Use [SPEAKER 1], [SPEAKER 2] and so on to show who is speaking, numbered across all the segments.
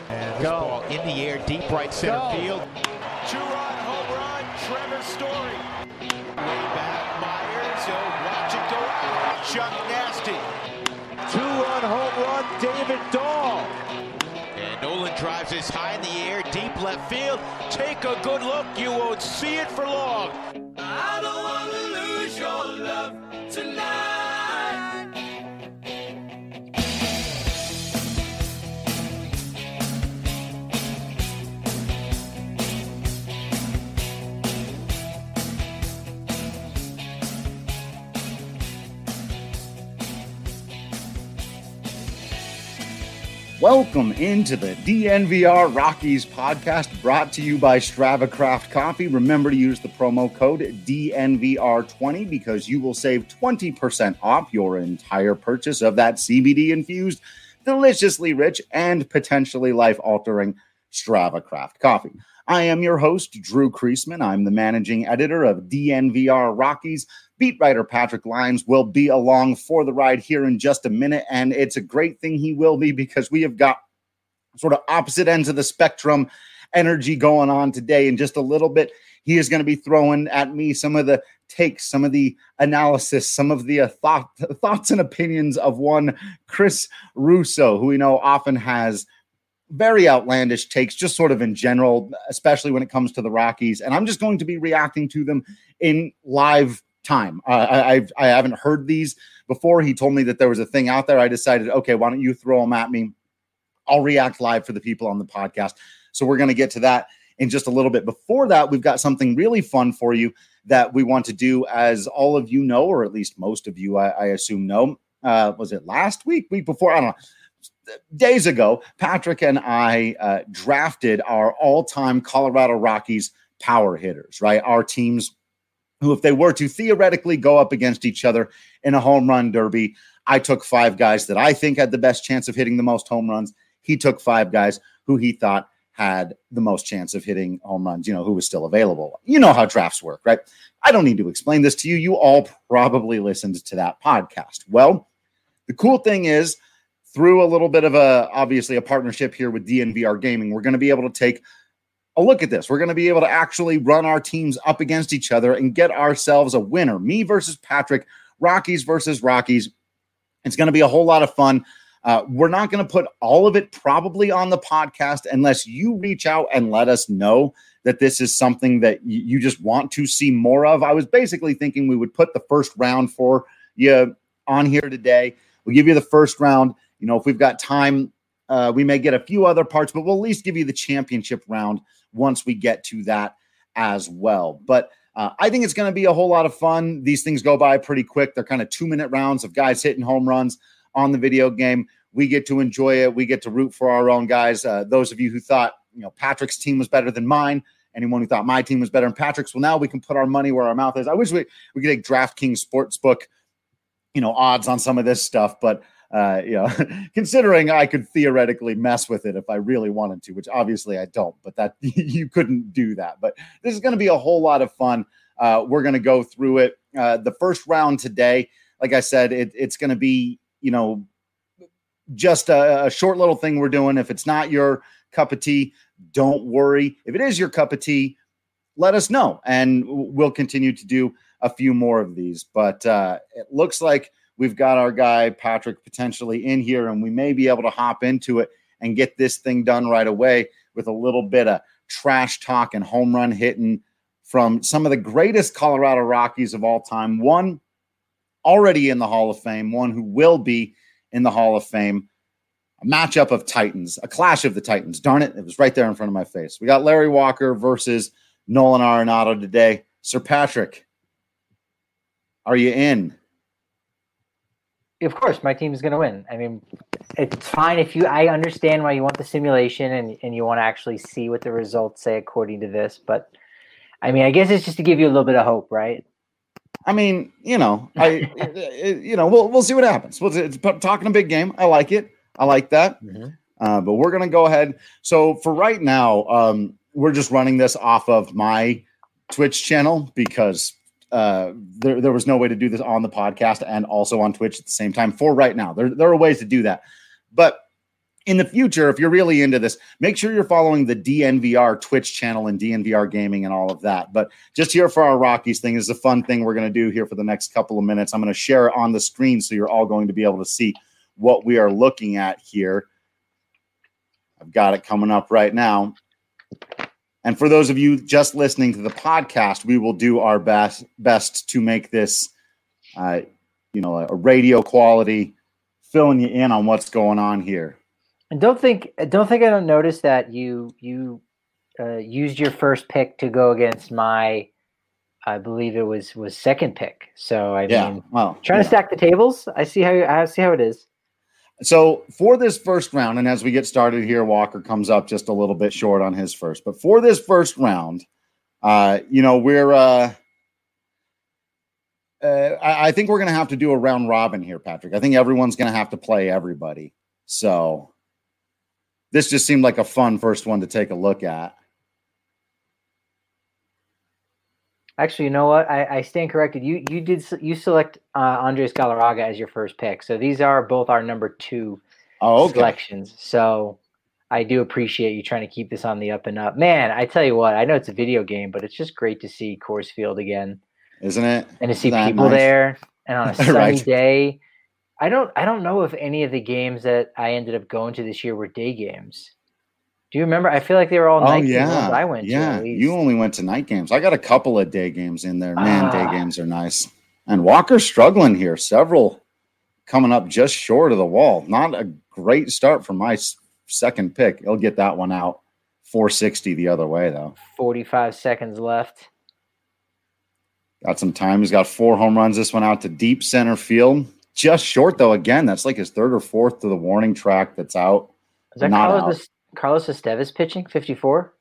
[SPEAKER 1] And this ball in the air, deep right center field.
[SPEAKER 2] Two-run home run, Trevor Story. Way back, Myers, watch it go out. Chuck Nasty.
[SPEAKER 3] Two-run home run, David Dahl.
[SPEAKER 1] And Nolan drives this high in the air, deep left field. Take a good look, you won't see it for long.
[SPEAKER 4] I don't want to lose your love tonight.
[SPEAKER 5] Welcome into the DNVR Rockies podcast, brought to you by Strava Craft Coffee. Remember to use the promo code DNVR20 because you will save 20% off your entire purchase of that CBD-infused, deliciously rich, and potentially life-altering Strava Craft Coffee. I am your host, Drew Kreisman. I'm the managing editor of DNVR Rockies. Beat writer Patrick Lyons will be along for the ride here in just a minute, and it's a great thing he will be because we have got sort of opposite ends of the spectrum energy going on today. In just a little bit, he is going to be throwing at me some of the takes, some of the analysis, some of the thoughts and opinions of one Chris Russo, who we know often has very outlandish takes, just sort of in general, especially when it comes to the Rockies. And I'm just going to be reacting to them in live time. I haven't heard these before. He told me that there was a thing out there. I decided, okay, why don't you throw them at me? I'll react live for the people on the podcast. So we're going to get to that in just a little bit. Before that, we've got something really fun for you that we want to do, as all of you know, or at least most of you, I assume, know. Was it last week before? I don't know. Days ago, Patrick and I drafted our all-time Colorado Rockies power hitters, right? Our teams who, if they were to theoretically go up against each other in a home run derby, I took 5 guys that I think had the best chance of hitting the most home runs. He took 5 guys who he thought had the most chance of hitting home runs, who was still available. You know how drafts work, right? I don't need to explain this to you. You all probably listened to that podcast. Well, the cool thing is, through a little bit of obviously a partnership here with DNVR Gaming, we're going to be able to take a look at this. We're going to be able to actually run our teams up against each other and get ourselves a winner. Me versus Patrick, Rockies versus Rockies. It's going to be a whole lot of fun. We're not going to put all of it probably on the podcast unless you reach out and let us know that this is something that you just want to see more of. I was basically thinking we would put the first round for you on here today. We'll give you the first round. If we've got time, we may get a few other parts, but we'll at least give you the championship round once we get to that as well. But I think it's going to be a whole lot of fun. These things go by pretty quick. They're kind of 2-minute rounds of guys hitting home runs on the video game. We get to enjoy it. We get to root for our own guys. Those of you who thought, Patrick's team was better than mine, anyone who thought my team was better than Patrick's, well, now we can put our money where our mouth is. I wish we could take DraftKings Sportsbook, odds on some of this stuff, but considering I could theoretically mess with it if I really wanted to, which obviously I don't, but that you couldn't do that. But this is going to be a whole lot of fun. We're going to go through it. The first round today, like I said, it's going to be, just a short little thing we're doing. If it's not your cup of tea, don't worry. If it is your cup of tea, let us know, and we'll continue to do a few more of these. But it looks like we've got our guy Patrick potentially in here, and we may be able to hop into it and get this thing done right away with a little bit of trash talk and home run hitting from some of the greatest Colorado Rockies of all time. One already in the Hall of Fame, one who will be in the Hall of Fame. A matchup of Titans, a clash of the Titans. Darn it, it was right there in front of my face. We got Larry Walker versus Nolan Arenado today. Sir Patrick, are you in?
[SPEAKER 6] Of course, my team is going to win. I mean, it's fine if I understand why you want the simulation and you want to actually see what the results say according to this. But I mean, I guess it's just to give you a little bit of hope, right?
[SPEAKER 5] I mean, we'll see what happens. It's talking a big game. I like it. I like that. Mm-hmm. But we're going to go ahead. So for right now, we're just running this off of my Twitch channel because there was no way to do this on the podcast and also on Twitch at the same time for right now. There are ways to do that. But, in the future, if you're really into this, make sure you're following the DNVR Twitch channel and DNVR Gaming and all of that. But just here for our Rockies thing, this is a fun thing we're going to do here for the next couple of minutes. I'm going to share it on the screen so you're all going to be able to see what we are looking at here. I've got it coming up right now. And for those of you just listening to the podcast, we will do our best to make this, a radio quality, filling you in on what's going on here.
[SPEAKER 6] And don't think I don't notice that you used your first pick to go against my, I believe it was second pick. So trying to stack the tables. I see how it is. So
[SPEAKER 5] for this first round, and as we get started here, Walker comes up just a little bit short on his first. But for this first round, we're I think we're going to have to do a round robin here, Patrick. I think everyone's going to have to play everybody. So this just seemed like a fun first one to take a look at.
[SPEAKER 6] Actually, you know what? I stand corrected. You select Andres Galarraga as your first pick. So these are both our number 2 selections. So I do appreciate you trying to keep this on the up and up. Man, I tell you what, I know it's a video game, but it's just great to see Coors Field again.
[SPEAKER 5] Isn't it?
[SPEAKER 6] And to see people there and on a sunny day. I don't know if any of the games that I ended up going to this year were day games. Do you remember? I feel like they were all night games I went to.
[SPEAKER 5] Yeah, you only went to night games. I got a couple of day games in there. Man, day games are nice. And Walker's struggling here. Several coming up just short of the wall. Not a great start for my second pick. He'll get that one out. 460 the other way, though.
[SPEAKER 6] 45 seconds left.
[SPEAKER 5] Got some time. He's got 4 home runs. This one out to deep center field. Just short, though. Again, that's like his third or fourth to the warning track that's out.
[SPEAKER 6] Is that Carlos Estevez pitching, 54?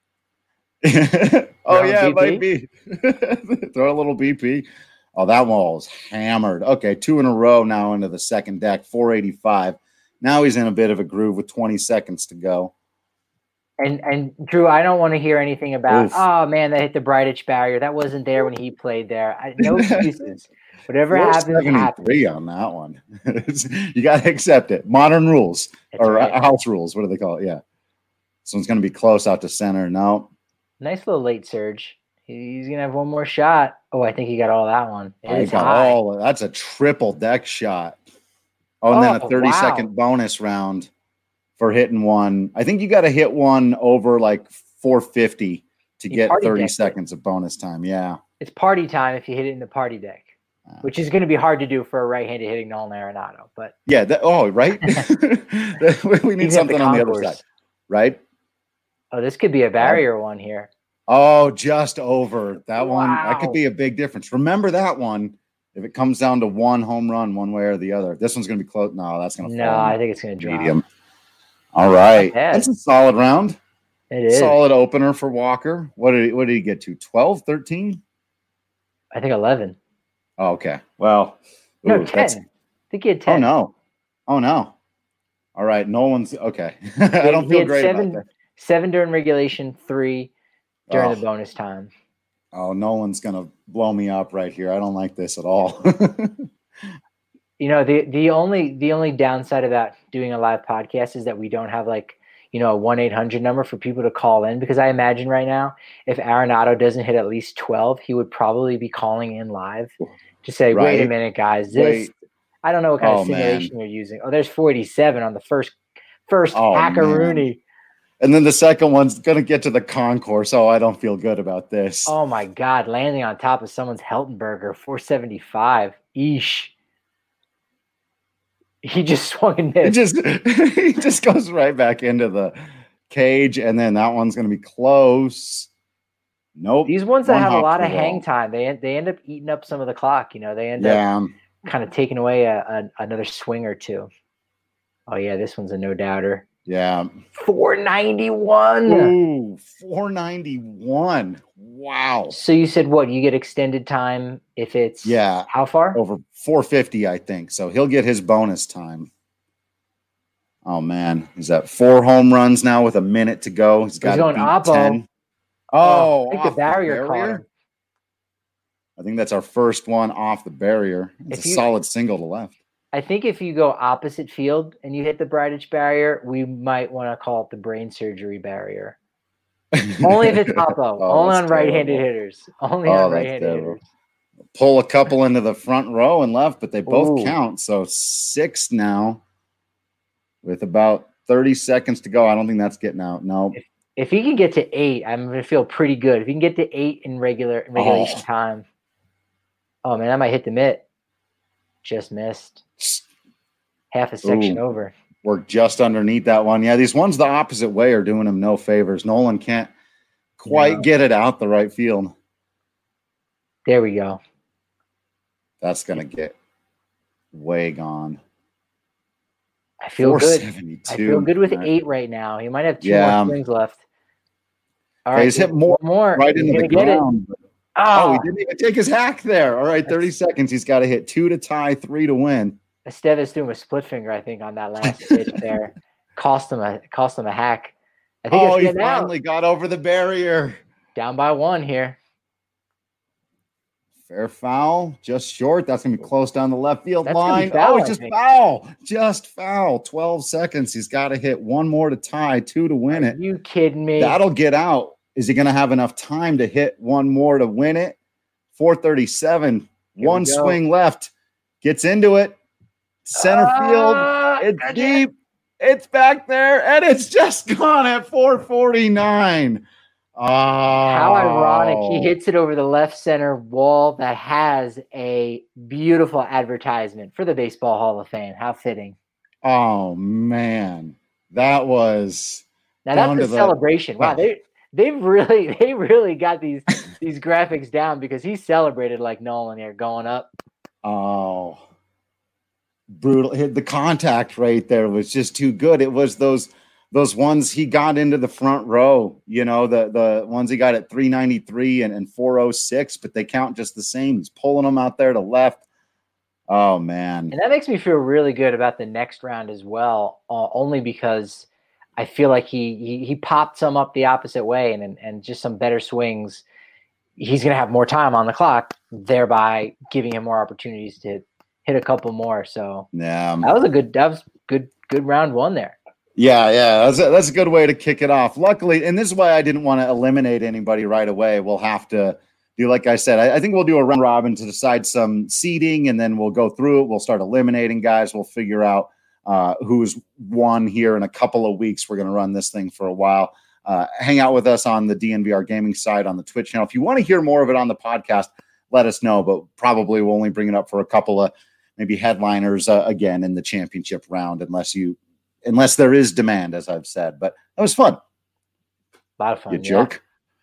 [SPEAKER 5] Oh, yeah, it might be. Throw a little BP. Oh, that wall was hammered. Okay, 2 in a row now into the second deck, 485. Now he's in a bit of a groove with 20 seconds to go.
[SPEAKER 6] And Drew, I don't want to hear anything about, oh, man, they hit the Bridich barrier. That wasn't there when he played there. No excuses. Whatever happens, happens.
[SPEAKER 5] 3 on that one. You got to accept it. Modern rules house rules. What do they call it? Yeah. This one's going to be close out to center. No.
[SPEAKER 6] Nice little late surge. He's going to have one more shot. Oh, I think he got all that one.
[SPEAKER 5] That's a triple deck shot. Oh, and then a 30-second bonus round for hitting one. I think you got to hit one over like 450 to get 30 seconds of bonus time. Yeah.
[SPEAKER 6] It's party time if you hit it in the party deck. Which is going to be hard to do for a right-handed hitting Nolan Arenado, but
[SPEAKER 5] yeah. Right. We need something on the other side, right?
[SPEAKER 6] Oh, this could be a barrier one here.
[SPEAKER 5] Oh, just over that one. That could be a big difference. Remember that one. If it comes down to one home run, one way or the other, this one's going to be close. No, that's going to fall.
[SPEAKER 6] No, I think it's going to drop.
[SPEAKER 5] Medium. All right, that's a solid round.
[SPEAKER 6] It is
[SPEAKER 5] solid opener for Walker. What did he get to? 12, 13?
[SPEAKER 6] I think 11.
[SPEAKER 5] Oh, okay. Well,
[SPEAKER 6] no, 10. I think he had 10.
[SPEAKER 5] Oh no. All right. Nolan's okay. I don't feel great about that.
[SPEAKER 6] 7 during regulation, 3 during the bonus time.
[SPEAKER 5] Oh, Nolan's going to blow me up right here. I don't like this at all.
[SPEAKER 6] The only downside about doing a live podcast is that we don't have a 1-800 number for people to call in, because I imagine right now, if Arenado doesn't hit at least 12, he would probably be calling in live to say, wait a minute, guys, I don't know what kind of simulation you're using. Oh, there's 47 on the first Hackaroonie.
[SPEAKER 5] And then the second one's going to get to the concourse. Oh, I don't feel good about this.
[SPEAKER 6] Oh, my God. Landing on top of someone's Heltenberger, 475. Eesh. He just swung and missed.
[SPEAKER 5] He just goes right back into the cage, and then that one's going to be close. Nope.
[SPEAKER 6] These ones that have a lot of hang time, they end up eating up some of the clock. They end up kind of taking away another swing or two. Oh, yeah, this one's a no-doubter.
[SPEAKER 5] Yeah.
[SPEAKER 6] 491.
[SPEAKER 5] Ooh, 491. Wow.
[SPEAKER 6] So you said what? You get extended time if it's how far?
[SPEAKER 5] Over 450, I think. So he'll get his bonus time. Oh, man. He's at 4 home runs now with a minute to go. He's got to beat 10. Oh,
[SPEAKER 6] I think the barrier caught him.
[SPEAKER 5] I think that's our first one off the barrier. It's a solid single to left.
[SPEAKER 6] I think if you go opposite field and you hit the Bridich barrier, we might want to call it the brain surgery barrier. Only if it's oppo. Only on right-handed hitters. Only on right-handed hitters.
[SPEAKER 5] Pull a couple into the front row and left, but they both count. So 6 now with about 30 seconds to go. I don't think that's getting out. No.
[SPEAKER 6] If he can get to 8, I'm going to feel pretty good. If he can get to 8 in regulation time. Oh, man, I might hit the mitt. Just missed. Half a section over.
[SPEAKER 5] Worked just underneath that one. Yeah, these ones the opposite way are doing him no favors. Nolan can't quite get it out the right field.
[SPEAKER 6] There we go.
[SPEAKER 5] That's going to get way gone.
[SPEAKER 6] I feel good. I feel good with 8 right now. He might have 2 more swings left. All right,
[SPEAKER 5] he's hit more right into the ground. He didn't even take his hack there. All right, 30 seconds. He's got to hit 2 to tie, 3 to win.
[SPEAKER 6] Estevez doing a split finger, I think, on that last pitch there. Cost him a hack. I think
[SPEAKER 5] he finally got over the barrier.
[SPEAKER 6] Down by 1 here.
[SPEAKER 5] Fair foul, just short. That's going to be close down the left field line.
[SPEAKER 6] It's
[SPEAKER 5] just foul. Just foul. 12 seconds. He's got to hit 1 more to tie, 2 to win it.
[SPEAKER 6] Are you kidding me?
[SPEAKER 5] That'll get out. Is he going to have enough time to hit 1 more to win it? 4:37. 1 swing left. Gets into it. Center field. It's deep. It's back there, and it's just gone at 4:49.
[SPEAKER 6] How ironic. He hits it over the left center wall that has a beautiful advertisement for the Baseball Hall of Fame. How fitting.
[SPEAKER 5] Oh, man. That was
[SPEAKER 6] now that's the celebration. Wow, they really got these graphics down because he celebrated like Nolan here going up.
[SPEAKER 5] Oh, brutal. The contact right there was just too good. It was those ones he got into the front row, the ones he got at 393 and 406, but they count just the same. He's pulling them out there to left. Oh, man.
[SPEAKER 6] And that makes me feel really good about the next round as well, only because I feel like he popped some up the opposite way and just some better swings. He's going to have more time on the clock, thereby giving him more opportunities to hit a couple more. So
[SPEAKER 5] yeah,
[SPEAKER 6] that was good round 1 there.
[SPEAKER 5] Yeah, that's a good way to kick it off. Luckily, and this is why I didn't want to eliminate anybody right away. We'll have to do, like I said, I think we'll do a round robin to decide some seeding, and then we'll go through it. We'll start eliminating guys. We'll figure out who's won here in a couple of weeks. We're going to run this thing for a while. Hang out with us on the DNVR gaming side on the Twitch channel. If you want to hear more of it on the podcast, let us know, but probably we'll only bring it up for a couple of maybe headliners again in the championship round, unless there is demand, as I've said. But that was fun.
[SPEAKER 6] A lot of fun.
[SPEAKER 5] You jerk.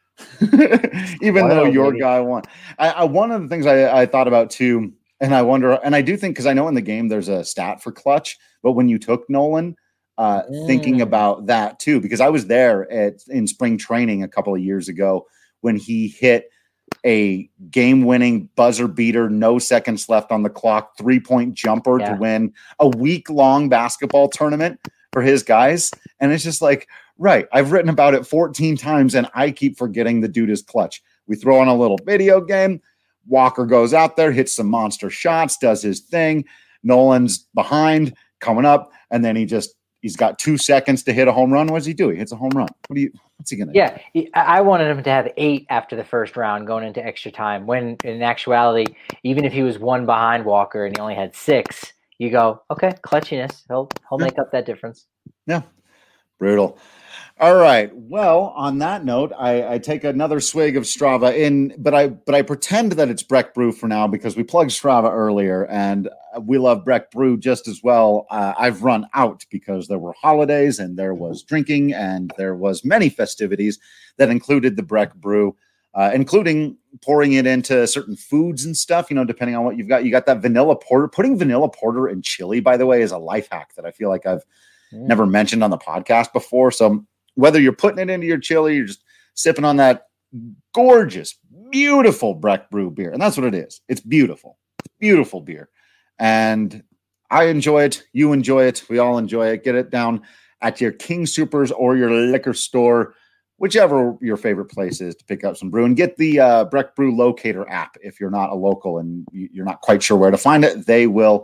[SPEAKER 5] Even though your guy won. One of the things I thought about too, and I wonder, and I do think, because I know in the game there's a stat for clutch, but when you took Nolan, thinking about that too, because I was there in spring training a couple of years ago when he hit a game-winning buzzer beater, no seconds left on the clock, 3-point jumper to win a week-long basketball tournament for his guys. And it's just like, right, I've written about it 14 times, and I keep forgetting the dude is clutch. We throw on a little video game. Walker goes out there, hits some monster shots, does his thing. Nolan's behind, coming up, and then he's got 2 seconds to hit a home run. What does he do? He hits a home run. What's he going to do?
[SPEAKER 6] Yeah, I wanted him to have 8 after the first round going into extra time, when in actuality, even if he was 1 behind Walker and he only had 6, you go, okay, clutchiness. He'll make up that difference.
[SPEAKER 5] Yeah, brutal. All right. Well, on that note, I take another swig of Strava but I pretend that it's Breck Brew for now because we plugged Strava earlier, and we love Breck Brew just as well. I've run out because there were holidays and there was drinking and there was many festivities that included the Breck Brew, including pouring it into certain foods and stuff, depending on what you've got. You got that vanilla porter. Putting vanilla porter in chili, by the way, is a life hack that I feel like I've never mentioned on the podcast before. So whether you're putting it into your chili, you're just sipping on that gorgeous, beautiful Breck Brew beer. And that's what it is. It's beautiful. It's beautiful beer. And I enjoy it. You enjoy it. We all enjoy it. Get it down at your King Soopers or your liquor store, whichever your favorite place is to pick up some brew. And get the Breck Brew Locator app if you're not a local and you're not quite sure where to find it. They will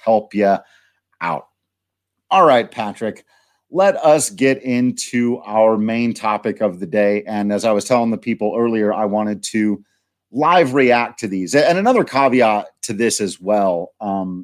[SPEAKER 5] help you out. All right, Patrick, let us get into our main topic of the day. And as I was telling the people earlier, I wanted to live react to these. And another caveat to this as well.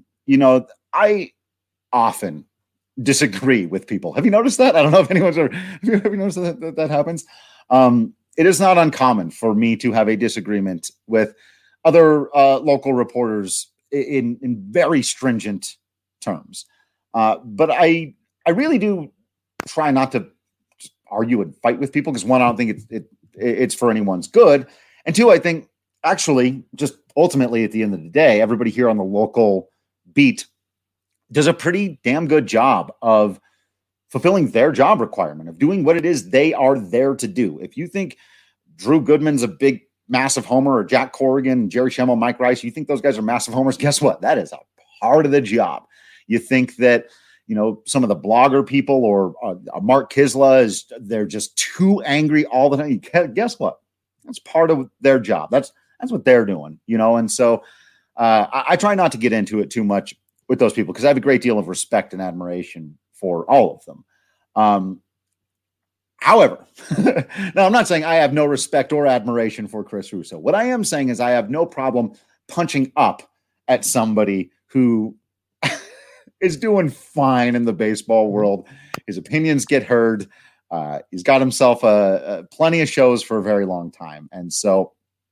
[SPEAKER 5] I often disagree with people. Have you noticed that? I don't know if anyone's ever, have you noticed that happens? It is not uncommon for me to have a disagreement with other local reporters in very stringent terms. But I really do try not to argue and fight with people because, one, I don't think it's for anyone's good. And two, I think actually just ultimately at the end of the day, everybody here on the local beat does a pretty damn good job of fulfilling their job requirement, of doing what it is they are there to do. If you think Drew Goodman's a big, massive homer, or Jack Corrigan, Jerry Schemmel, Mike Rice, you think those guys are massive homers, guess what? That is a part of the job. You think that, some of the blogger people or Mark Kisla they're just too angry all the time. Guess what? That's part of their job. That's what they're doing, And so I try not to get into it too much with those people because I have a great deal of respect and admiration for all of them. However, now I'm not saying I have no respect or admiration for Chris Russo. What I am saying is I have no problem punching up at somebody who is doing fine in the baseball world. His opinions get heard. He's got himself plenty of shows for a very long time. And so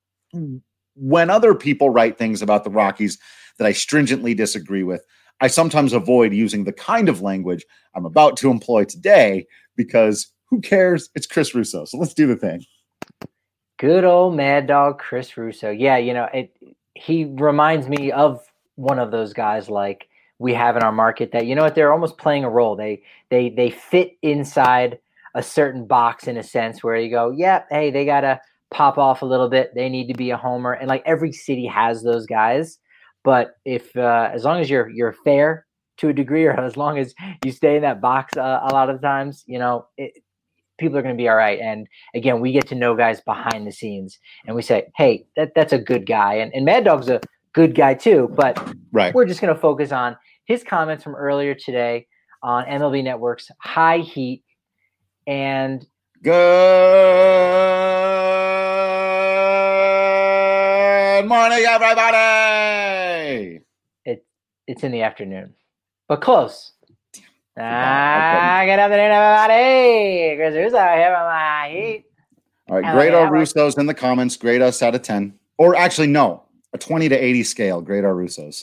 [SPEAKER 5] when other people write things about the Rockies that I stringently disagree with, I sometimes avoid using the kind of language I'm about to employ today because who cares? It's Chris Russo. So let's do the thing.
[SPEAKER 6] Good old Mad Dog Chris Russo. Yeah, he reminds me of one of those guys like we have in our market that, they're almost playing a role. They fit inside a certain box in a sense where you go, yeah, hey, they got to pop off a little bit. They need to be a homer. And like every city has those guys. But if as long as you're fair to a degree, or as long as you stay in that box a lot of times, people are going to be all right. And again, we get to know guys behind the scenes and we say, hey, that's a good guy. And Mad Dog's a good guy too, but
[SPEAKER 5] right.
[SPEAKER 6] We're just going to focus on his comments from earlier today on MLB Network's High Heat. And
[SPEAKER 5] good morning, everybody.
[SPEAKER 6] It's in the afternoon, but close. Good afternoon, everybody. Chris Russo here on My Heat.
[SPEAKER 5] All right, grade our Russos in the comments. Grade us out of 10. Or actually, no, a 20 to 80 scale. Grade our Russos.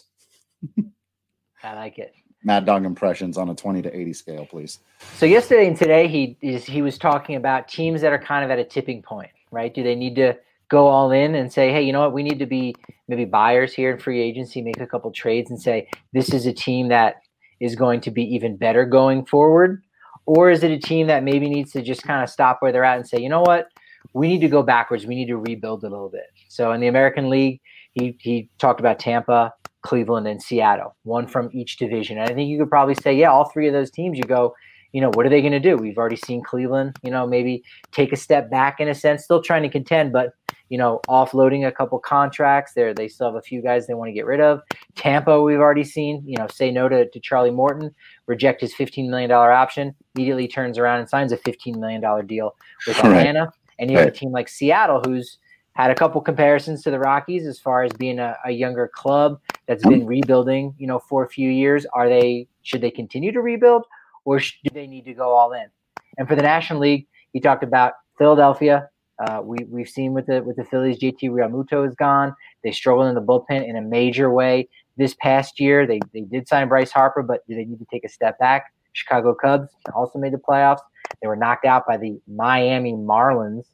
[SPEAKER 6] I like it.
[SPEAKER 5] Mad Dog impressions on a 20 to 80 scale, please.
[SPEAKER 6] So yesterday and today, he was talking about teams that are kind of at a tipping point, right? Do they need to go all in and say, hey, you know what, we need to be maybe buyers here in free agency, make a couple trades and say, this is a team that is going to be even better going forward? Or is it a team that maybe needs to just kind of stop where they're at and say, you know what, we need to go backwards. We need to rebuild a little bit. So in the American League, he talked about Tampa, Cleveland, and Seattle, one from each division. And I think you could probably say, yeah, all three of those teams, you go, what are they going to do? We've already seen Cleveland, maybe take a step back in a sense, still trying to contend, but, offloading a couple contracts there. They still have a few guys they want to get rid of. Tampa, we've already seen, say no to Charlie Morton, reject his $15 million option, immediately turns around and signs a $15 million deal with Atlanta. Right. And you have a team like Seattle, who's had a couple comparisons to the Rockies as far as being a younger club that's been rebuilding, for a few years. Should they continue to rebuild, or do they need to go all in? And for the National League, he talked about Philadelphia. We've seen with the Phillies, JT Realmuto is gone. They struggled in the bullpen in a major way this past year. They did sign Bryce Harper, but do they need to take a step back? Chicago Cubs also made the playoffs. They were knocked out by the Miami Marlins,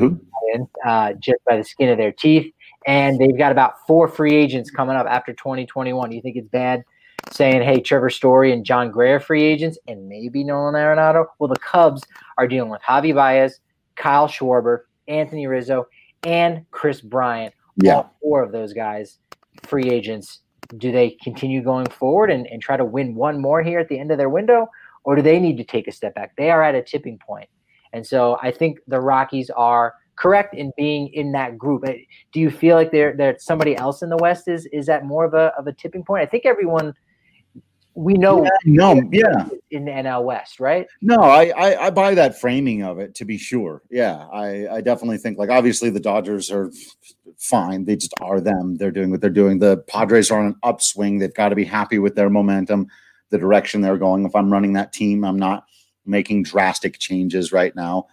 [SPEAKER 6] just by the skin of their teeth. And they've got about 4 free agents coming up after 2021. Do you think it's bad saying, hey, Trevor Story and John Gray are free agents and maybe Nolan Arenado? Well, the Cubs are dealing with Javi Baez, Kyle Schwarber, Anthony Rizzo, and Chris Bryant. Yeah. All 4 of those guys, free agents. Do they continue going forward and try to win one more here at the end of their window, or do they need to take a step back? They are at a tipping point. And so I think the Rockies are correct in being in that group. Do you feel like there's somebody else in the West is at more of a tipping point? I think everyone we know.
[SPEAKER 5] Yeah.
[SPEAKER 6] In the NL West, right?
[SPEAKER 5] No, I buy that framing of it, to be sure. Yeah, I definitely think, like, obviously the Dodgers are fine. They just are them. They're doing what they're doing. The Padres are on an upswing. They've got to be happy with their momentum, the direction they're going. If I'm running that team, I'm not making drastic changes right now.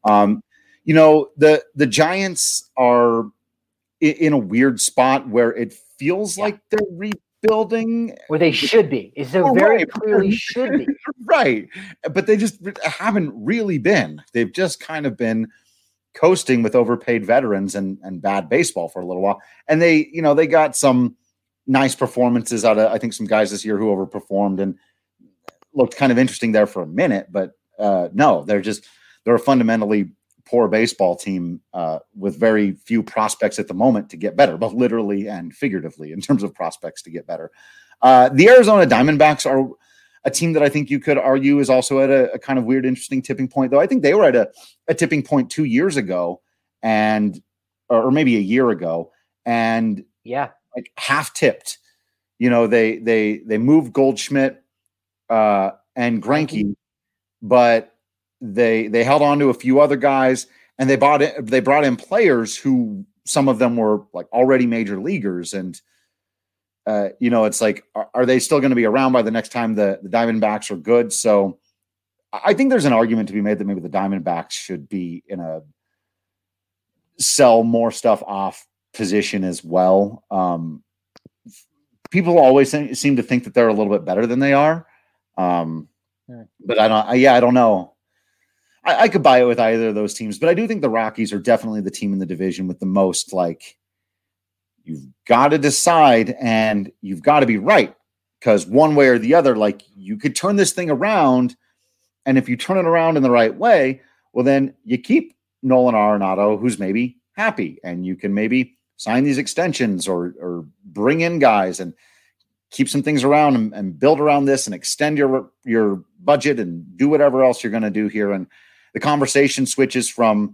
[SPEAKER 5] The Giants are in a weird spot where it feels like they're rebuilding.
[SPEAKER 6] Where they should be. Very clearly should be.
[SPEAKER 5] Right. But they just haven't really been. They've just kind of been coasting with overpaid veterans and bad baseball for a little while. And they got some nice performances out of, I think, some guys this year who overperformed and looked kind of interesting there for a minute. But no, they're a fundamentally poor baseball team with very few prospects at the moment to get better, both literally and figuratively in terms of prospects to get better. The Arizona Diamondbacks are a team that I think you could argue is also at a kind of weird, interesting tipping point, though. I think they were at a tipping point 2 years ago or maybe a year ago, and like half tipped. They moved Goldschmidt and Greinke, but they held on to a few other guys, and they brought in players who, some of them were like already major leaguers. And, it's like, are they still going to be around by the next time the Diamondbacks are good? So I think there's an argument to be made that maybe the Diamondbacks should be in a sell more stuff off position as well. People always seem to think that they're a little bit better than they are. But I don't know. I could buy it with either of those teams, but I do think the Rockies are definitely the team in the division with the most, like, you've got to decide and you've got to be right, because one way or the other, like, you could turn this thing around, and if you turn it around in the right way, well, then you keep Nolan Arenado, who's maybe happy, and you can maybe sign these extensions or bring in guys and keep some things around and build around this and extend your budget and do whatever else you're going to do here. And the conversation switches from,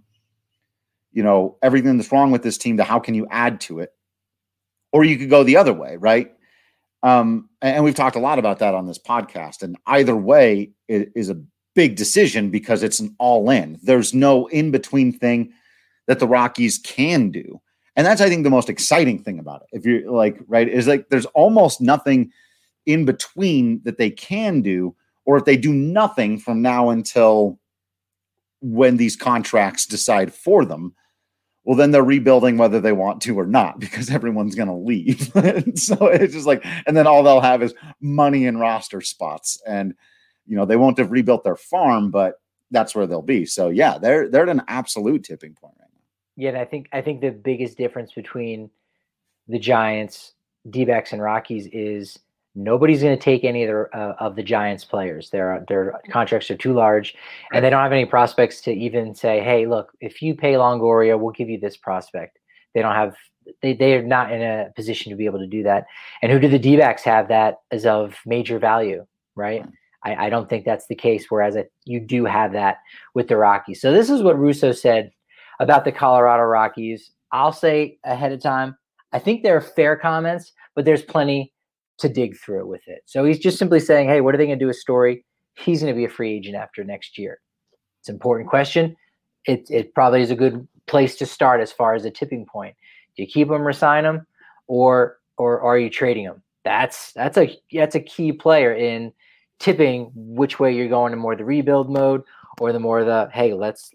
[SPEAKER 5] everything that's wrong with this team to how can you add to it? Or you could go the other way, right? And we've talked a lot about that on this podcast. And either way is a big decision because it's an all-in. There's no in-between thing that the Rockies can do. And that's, I think, the most exciting thing about it. If you're like, right, is like there's almost nothing in between that they can do, or if they do nothing from now until when these contracts decide for them, well, then they're rebuilding whether they want to or not, because everyone's going to leave. So it's just like, and then all they'll have is money and roster spots. And, they won't have rebuilt their farm, but that's where they'll be. So yeah, they're at an absolute tipping point right now.
[SPEAKER 6] Yeah, and I think the biggest difference between the Giants, D-backs, and Rockies is nobody's going to take any of the Giants players. Their contracts are too large, and they don't have any prospects to even say, "Hey, look, if you pay Longoria, we'll give you this prospect." They don't have. They are not in a position to be able to do that. And who do the D-backs have that is of major value, right? I don't think that's the case. Whereas you do have that with the Rockies. So this is what Russo said about the Colorado Rockies. I'll say ahead of time, I think they're fair comments, but there's plenty to dig through with it. So he's just simply saying, hey, what are they going to do with Story? He's going to be a free agent after next year. It's an important question. It probably is a good place to start as far as a tipping point. Do you keep him, resign him, or are you trading him? That's a key player in tipping which way you're going, to more the rebuild mode or the more the, hey, let's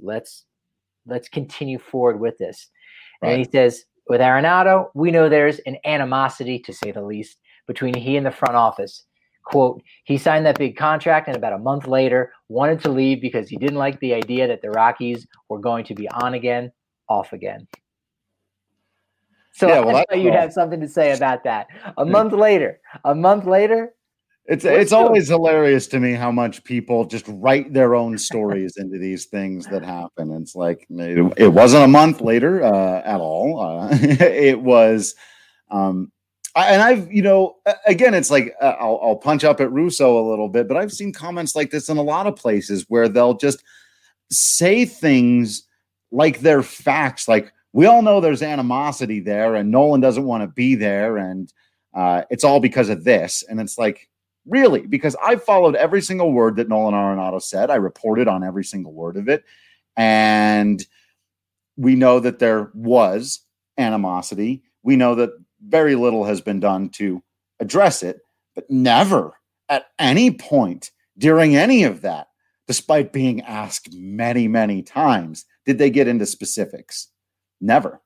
[SPEAKER 6] continue forward with this. Right. And he says, with Arenado, we know there's an animosity, to say the least, between he and the front office. Quote, he signed that big contract and about a month later wanted to leave because he didn't like the idea that the Rockies were going to be on again, off again. So yeah, I thought you'd have something to say about that. A month later.
[SPEAKER 5] It's always hilarious to me how much people just write their own stories into these things that happen. It's like, it wasn't a month later at all. It was, and I've, again, it's like, I'll punch up at Russo a little bit, but I've seen comments like this in a lot of places where they'll just say things like they're facts. Like, we all know there's animosity there and Nolan doesn't want to be there. And it's all because of this. And it's like, Really, because I followed every single word that Nolan Arenado said. I reported on every single word of it. And we know that there was animosity. We know that very little has been done to address it, but never at any point during any of that, despite being asked many, many times, did they get into specifics. Never.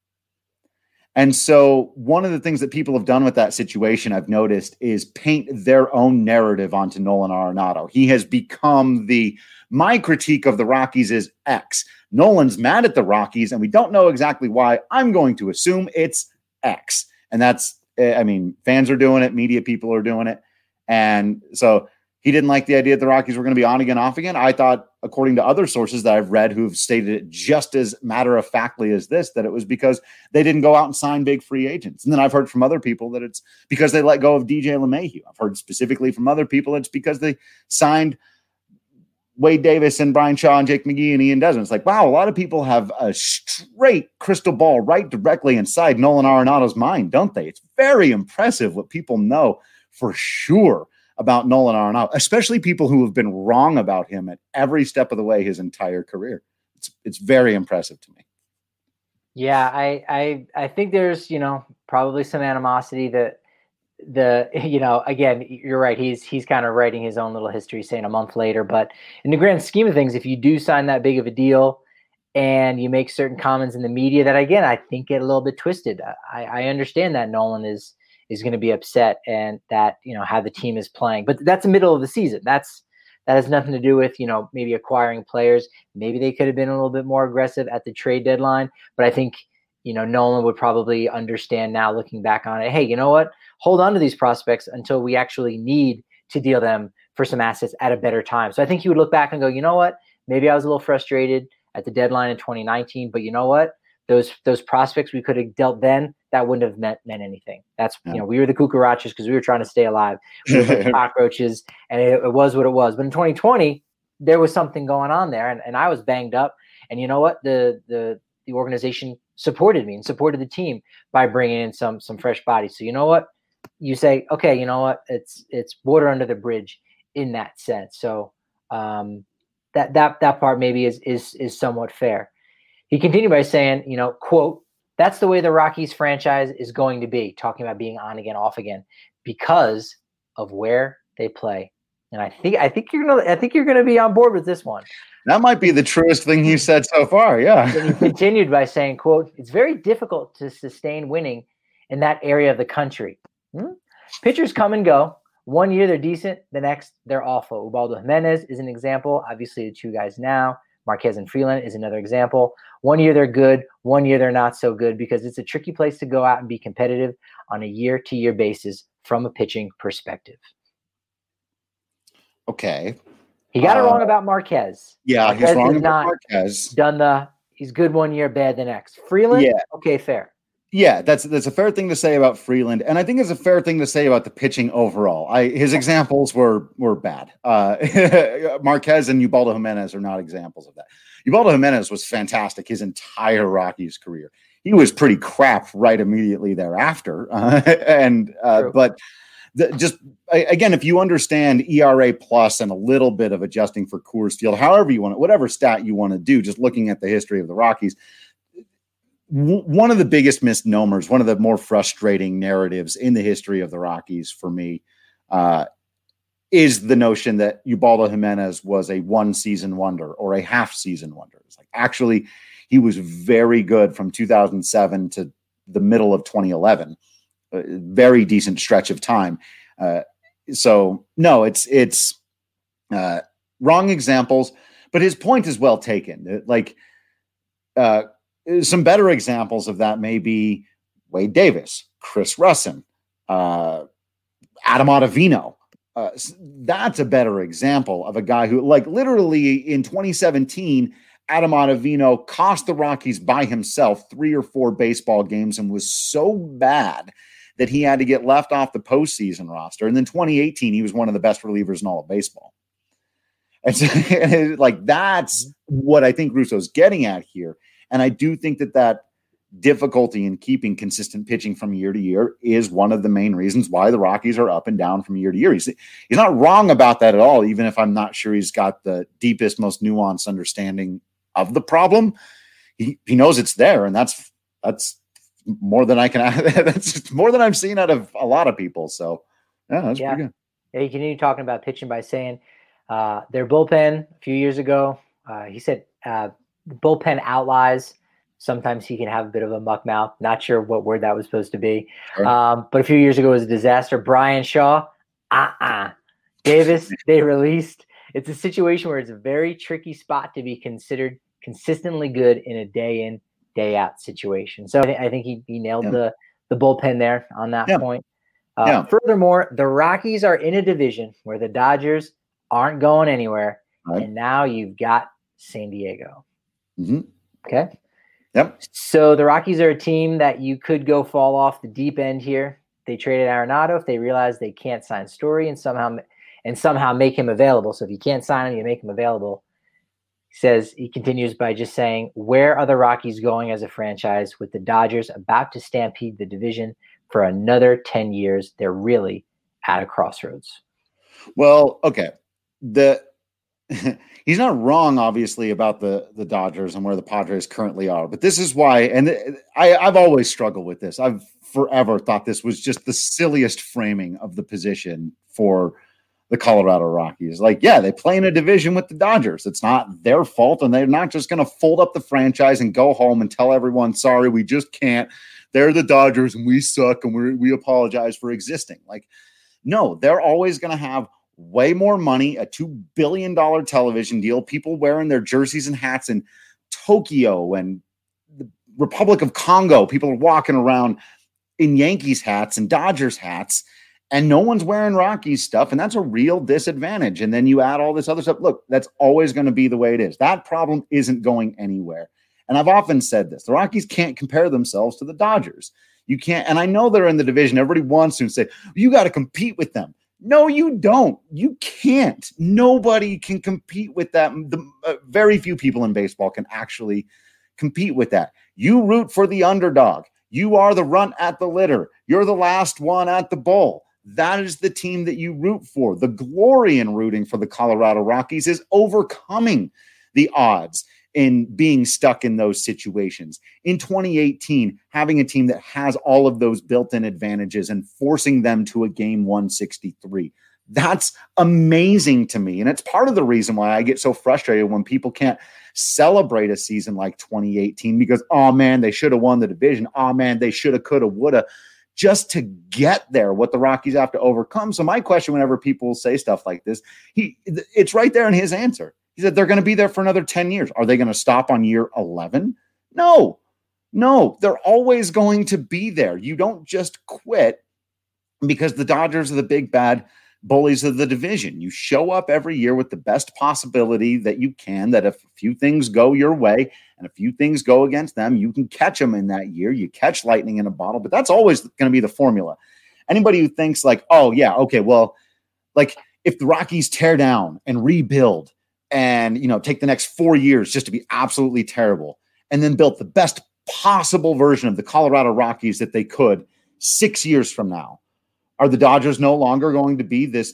[SPEAKER 5] And so one of the things that people have done with that situation, I've noticed, is paint their own narrative onto Nolan Arenado. He has become my critique of the Rockies is X. Nolan's mad at the Rockies, and we don't know exactly why. I'm going to assume it's X. And that's, fans are doing it. Media people are doing it. And so he didn't like the idea that the Rockies were going to be on again, off again. I thought, according to other sources that I've read who've stated it just as matter-of-factly as this, that it was because they didn't go out and sign big free agents. And then I've heard from other people that it's because they let go of DJ LeMahieu. I've heard specifically from other people it's because they signed Wade Davis and Brian Shaw and Jake McGee and Ian Desmond. It's like, wow, a lot of people have a straight crystal ball right directly inside Nolan Arenado's mind, don't they? It's very impressive what people know for sure about Nolan Arenado, especially people who have been wrong about him at every step of the way his entire career. It's very impressive to me.
[SPEAKER 6] Yeah, I think there's, probably some animosity that again, you're right. He's kind of writing his own little history saying a month later, but in the grand scheme of things, if you do sign that big of a deal and you make certain comments in the media that, again, I think get a little bit twisted. I understand that Nolan is going to be upset and that, how the team is playing, but that's the middle of the season. That has nothing to do with, maybe acquiring players. Maybe they could have been a little bit more aggressive at the trade deadline, but I think, Nolan would probably understand now looking back on it. Hey, you know what? Hold on to these prospects until we actually need to deal them for some assets at a better time. So I think he would look back and go, you know what? Maybe I was a little frustrated at the deadline in 2019, but you know what? Those prospects we could have dealt then, that wouldn't have meant anything. That's, we were the cucarachas because we were trying to stay alive. We were like cockroaches, and it was what it was. But in 2020, there was something going on there, and I was banged up. And you know what? The organization supported me and supported the team by bringing in some fresh bodies. So you know what? You say, okay, you know what? It's water under the bridge in that sense. So that part maybe is somewhat fair. He continued by saying, quote, that's the way the Rockies franchise is going to be, talking about being on again, off again, because of where they play. And I think you're gonna be on board with this one.
[SPEAKER 5] That might be the truest thing you said so far. Yeah.
[SPEAKER 6] And he continued by saying, quote, it's very difficult to sustain winning in that area of the country. Pitchers come and go. One year they're decent, the next they're awful. Ubaldo Jimenez is an example. Obviously, the two guys now. Marquez and Freeland is another example. One year they're good, one year they're not so good, because it's a tricky place to go out and be competitive on a year-to-year basis from a pitching perspective.
[SPEAKER 5] Okay.
[SPEAKER 6] He got it wrong about Marquez.
[SPEAKER 5] Yeah,
[SPEAKER 6] Marquez
[SPEAKER 5] he's wrong about Marquez.
[SPEAKER 6] He's good one year, bad the next. Freeland,
[SPEAKER 5] yeah.
[SPEAKER 6] Okay, fair.
[SPEAKER 5] Yeah, that's a fair thing to say about Freeland, and I think it's a fair thing to say about the pitching overall. His examples were bad. Marquez and Ubaldo Jimenez are not examples of that. Ubaldo Jimenez was fantastic his entire Rockies career. He was pretty crap right immediately thereafter, but again, if you understand ERA plus and a little bit of adjusting for Coors Field, however you want it, whatever stat you want to do, just looking at the history of the Rockies. One of the biggest misnomers, one of the more frustrating narratives in the history of the Rockies for me is the notion that Ubaldo Jimenez was a one-season wonder or a half-season wonder. It's like, actually, he was very good from 2007 to the middle of 2011. A very decent stretch of time. So, no, it's wrong examples, but his point is well taken. Some better examples of that may be Wade Davis, Chris Russin, Adam Ottavino. That's a better example of a guy who, literally in 2017, Adam Ottavino cost the Rockies by himself 3 or 4 baseball games and was so bad that he had to get left off the postseason roster. And then 2018, he was one of the best relievers in all of baseball. And so, that's what I think Russo's getting at here. And I do think that difficulty in keeping consistent pitching from year to year is one of the main reasons why the Rockies are up and down from year to year. He's not wrong about that at all, even if I'm not sure he's got the deepest, most nuanced understanding of the problem. He knows it's there, and that's more than I can. That's more than I've seen out of a lot of people. So that's pretty good.
[SPEAKER 6] Yeah, he continued talking about pitching by saying their bullpen a few years ago. He said the bullpen outlies. Sometimes he can have a bit of a muck mouth. Not sure what word that was supposed to be.
[SPEAKER 5] Sure.
[SPEAKER 6] But a few years ago it was a disaster. Brian Shaw, Davis, they released. It's a situation where it's a very tricky spot to be considered consistently good in a day in, day out situation. So I think he nailed the bullpen there on that point. Furthermore, the Rockies are in a division where the Dodgers aren't going anywhere. Right. And now you've got San Diego.
[SPEAKER 5] Mm-hmm.
[SPEAKER 6] Okay.
[SPEAKER 5] Yep.
[SPEAKER 6] So the Rockies are a team that you could go fall off the deep end here. They traded Arenado if they realize they can't sign Story and somehow make him available. So if you can't sign him, you make him available. He continues by just saying, where are the Rockies going as a franchise with the Dodgers about to stampede the division for another 10 years? They're really at a crossroads.
[SPEAKER 5] Well, okay. He's not wrong, obviously, about the Dodgers and where the Padres currently are. But this is why, and I've always struggled with this. I've forever thought this was just the silliest framing of the position for the Colorado Rockies. Like, yeah, they play in a division with the Dodgers. It's not their fault, and they're not just going to fold up the franchise and go home and tell everyone, sorry, we just can't. They're the Dodgers, and we suck, and we apologize for existing. Like, no, they're always going to have way more money, a $2 billion television deal, people wearing their jerseys and hats in Tokyo and the Republic of Congo. People are walking around in Yankees hats and Dodgers hats, and no one's wearing Rockies stuff. And that's a real disadvantage. And then you add all this other stuff. Look, that's always going to be the way it is. That problem isn't going anywhere. And I've often said this, the Rockies can't compare themselves to the Dodgers. You can't. And I know they're in the division. Everybody wants to say, you got to compete with them. No, you don't. You can't. Nobody can compete with that. Very few people in baseball can actually compete with that. You root for the underdog. You are the runt at the litter. You're the last one at the bowl. That is the team that you root for. The glory in rooting for the Colorado Rockies is overcoming the odds in being stuck in those situations. In 2018, having a team that has all of those built-in advantages and forcing them to a game 163. That's amazing to me. And it's part of the reason why I get so frustrated when people can't celebrate a season like 2018 because, oh man, they should have won the division. Oh man, they should have, could have, would have, just to get there, what the Rockies have to overcome. So my question, whenever people say stuff like this, it's right there in his answer. He said they're going to be there for another 10 years. Are they going to stop on year 11? No, they're always going to be there. You don't just quit because the Dodgers are the big bad bullies of the division. You show up every year with the best possibility that you can, that if a few things go your way and a few things go against them, you can catch them in that year. You catch lightning in a bottle, but that's always going to be the formula. Anybody who thinks like, oh yeah, okay, well, like if the Rockies tear down and rebuild and, take the next 4 years just to be absolutely terrible and then built the best possible version of the Colorado Rockies that they could 6 years from now, are the Dodgers no longer going to be this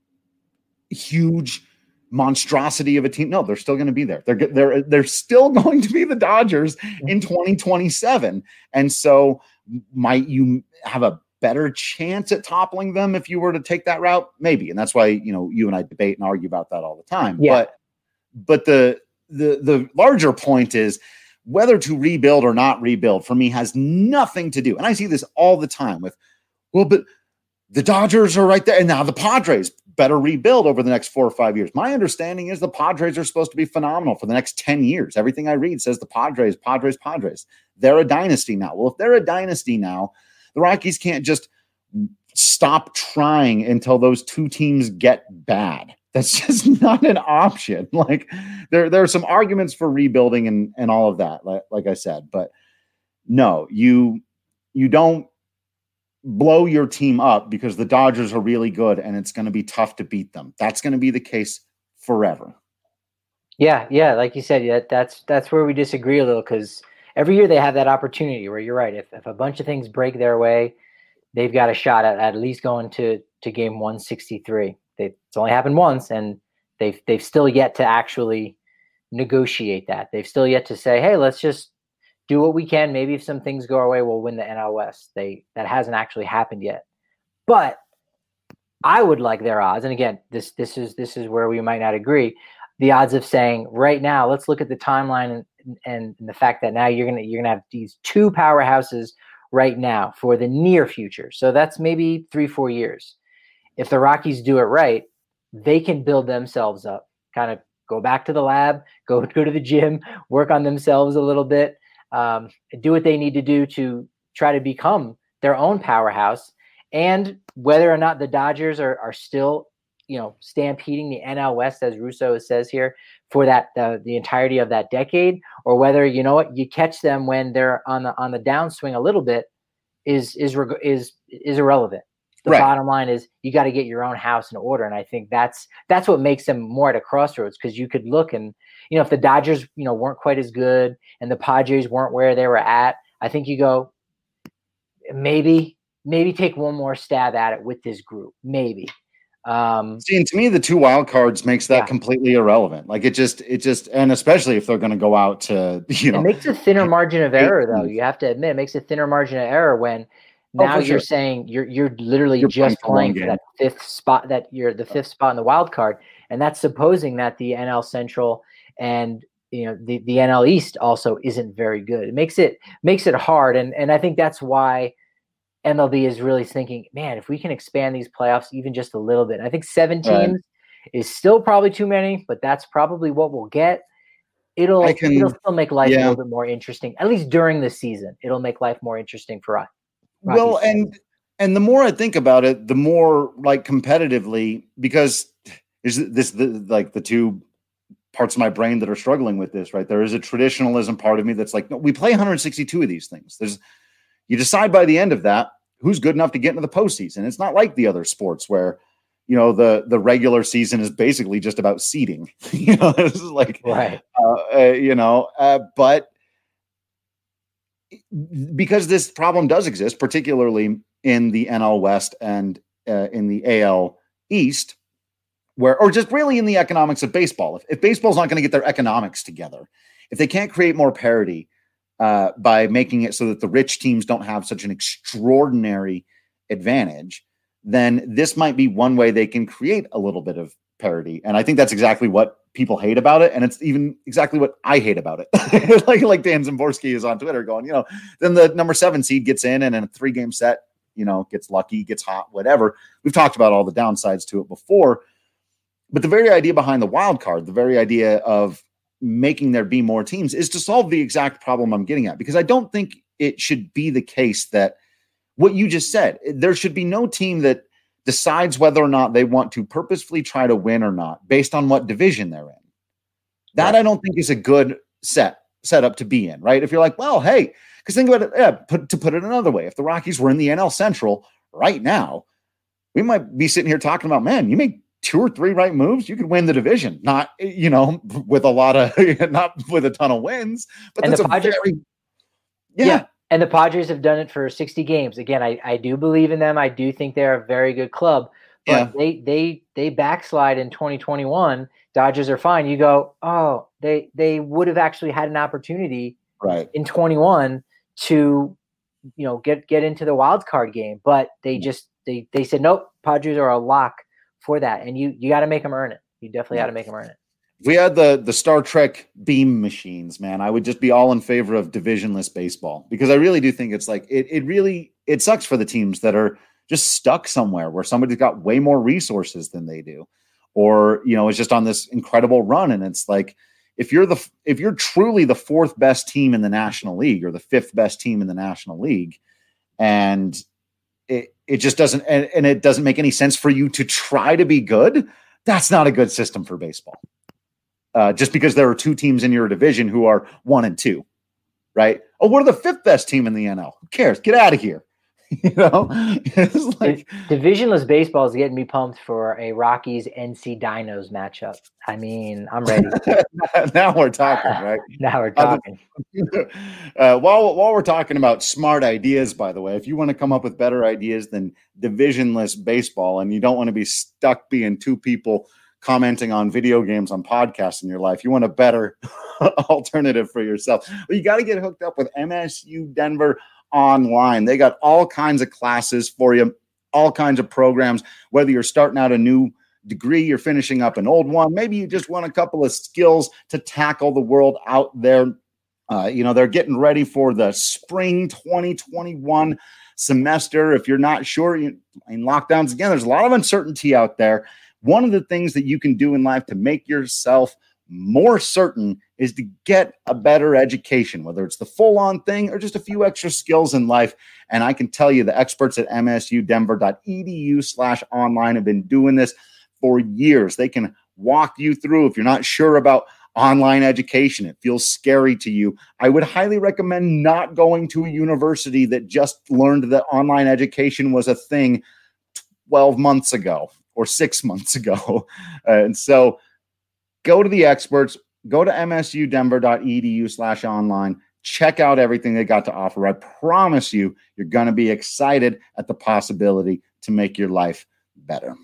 [SPEAKER 5] huge monstrosity of a team? No, they're still going to be there. They're still going to be the Dodgers in 2027. And so might you have a better chance at toppling them if you were to take that route? Maybe. And that's why, you and I debate and argue about that all the time.
[SPEAKER 6] Yeah.
[SPEAKER 5] But the larger point is whether to rebuild or not rebuild for me has nothing to do. And I see this all the time with, well, but the Dodgers are right there. And now the Padres better rebuild over the next 4 or 5 years. My understanding is the Padres are supposed to be phenomenal for the next 10 years. Everything I read says the Padres. They're a dynasty now. Well, if they're a dynasty now, the Rockies can't just stop trying until those two teams get bad. That's just not an option. Like there are some arguments for rebuilding and all of that, like I said, but no, you don't blow your team up because the Dodgers are really good and it's going to be tough to beat them. That's going to be the case forever.
[SPEAKER 6] Yeah. Like you said, that's where we disagree a little because every year they have that opportunity where you're right. If a bunch of things break their way, they've got a shot at least going to game 163. It's only happened once, and they've still yet to actually negotiate that. They've still yet to say, hey, let's just do what we can. Maybe if some things go our way, we'll win the NL West. That hasn't actually happened yet. But I would like their odds. And again, this is where we might not agree. The odds of saying right now, let's look at the timeline and the fact that now you're gonna have these two powerhouses right now for the near future. So that's maybe 3-4 years. If the Rockies do it right, they can build themselves up, kind of go back to the lab, go to the gym, work on themselves a little bit, do what they need to do to try to become their own powerhouse. And whether or not the Dodgers are still, stampeding the NL West, as Russo says here, for that the entirety of that decade, or whether you catch them when they're on the downswing a little bit, is irrelevant. The bottom line is you got to get your own house in order, and I think that's what makes them more at a crossroads, because you could look and if the Dodgers weren't quite as good and the Padres weren't where they were at, I think you go maybe take one more stab at it with this group, maybe.
[SPEAKER 5] See, and to me, the two wild cards makes that completely irrelevant. Like it just, and especially if they're going to go out to,
[SPEAKER 6] it makes a thinner margin of error, though. You have to admit, it makes a thinner margin of error when now you're saying you're literally just playing for that fifth spot, that you're the fifth spot in the wild card, and that's supposing that the NL Central and the NL East also isn't very good. It makes it hard, and I think that's why MLB is really thinking, man, if we can expand these playoffs even just a little bit. And I think 7 teams is still probably too many, but that's probably what we'll get. It'll still make life a little bit more interesting, at least during the season. It'll make life more interesting for us.
[SPEAKER 5] Well, and the more I think about it, the more competitively, because there's the two parts of my brain that are struggling with this, right? There is a traditionalism part of me that's like, no, we play 162 of these things. You decide by the end of that who's good enough to get into the postseason. It's not like the other sports where, the regular season is basically just about seeding. This is like,
[SPEAKER 6] right.
[SPEAKER 5] But because this problem does exist, particularly in the NL West and in the AL East, or just really in the economics of baseball. If baseball's not going to get their economics together, if they can't create more parity, by making it so that the rich teams don't have such an extraordinary advantage, then this might be one way they can create a little bit of parity. And I think that's exactly what people hate about it. And it's even exactly what I hate about it. like Dan Zimborski is on Twitter going, then the number 7 seed gets in and in a 3-game set, gets lucky, gets hot, whatever. We've talked about all the downsides to it before, but the very idea behind the wild card, the very idea of making there be more teams, is to solve the exact problem I'm getting at, because I don't think it should be the case that what you just said, there should be no team that decides whether or not they want to purposefully try to win or not based on what division they're in. That I don't think is a good setup to be in, right? If you're like, well, hey, because think about it, to put it another way, if the Rockies were in the NL Central right now, we might be sitting here talking about, man, you make 2 or 3 right moves, you could win the division. Not, with a lot of, not with a ton of wins, but
[SPEAKER 6] and
[SPEAKER 5] that's
[SPEAKER 6] the Padres, and the Padres have done it for 60 games. Again, I do believe in them. I do think they're a very good club, but they backslide in 2021. Dodgers are fine. You go, oh, they would have actually had an opportunity in 21 to, get into the wild card game, but they just, they said, nope, Padres are a lock for that, and you got to make them earn it. You definitely got to make them earn it.
[SPEAKER 5] If we had the Star Trek beam machines, man, I would just be all in favor of divisionless baseball, because I really do think it's like it sucks for the teams that are just stuck somewhere where somebody's got way more resources than they do, or is just on this incredible run, and it's like if you're truly the 4th best team in the National League or the 5th best team in the National League, and it just doesn't, and it doesn't make any sense for you to try to be good. That's not a good system for baseball. Just because there are 2 teams in your division who are 1 and 2, right? Oh, we're the 5th best team in the NL. Who cares? Get out of here. It's like
[SPEAKER 6] divisionless baseball is getting me pumped for a Rockies NC Dinos matchup. I mean, I'm ready.
[SPEAKER 5] Now we're talking, right?
[SPEAKER 6] Now we're talking.
[SPEAKER 5] While we're talking about smart ideas, by the way, if you want to come up with better ideas than divisionless baseball, and you don't want to be stuck being two people commenting on video games on podcasts in your life, you want a better alternative for yourself. Well, you got to get hooked up with MSU Denver Online. They got all kinds of classes for you, all kinds of programs, whether you're starting out a new degree, you're finishing up an old one, maybe you just want a couple of skills to tackle the world out there. They're getting ready for the spring 2021 semester. If you're not sure, in lockdowns again, there's a lot of uncertainty out there. One of the things that you can do in life to make yourself more certain is to get a better education, whether it's the full-on thing or just a few extra skills in life. And I can tell you the experts at msudenver.edu/online have been doing this for years. They can walk you through if you're not sure about online education, it feels scary to you. I would highly recommend not going to a university that just learned that online education was a thing 12 months ago or 6 months ago. And so go to the experts, go to msudenver.edu/online, check out everything they got to offer. I promise you, you're going to be excited at the possibility to make your life better.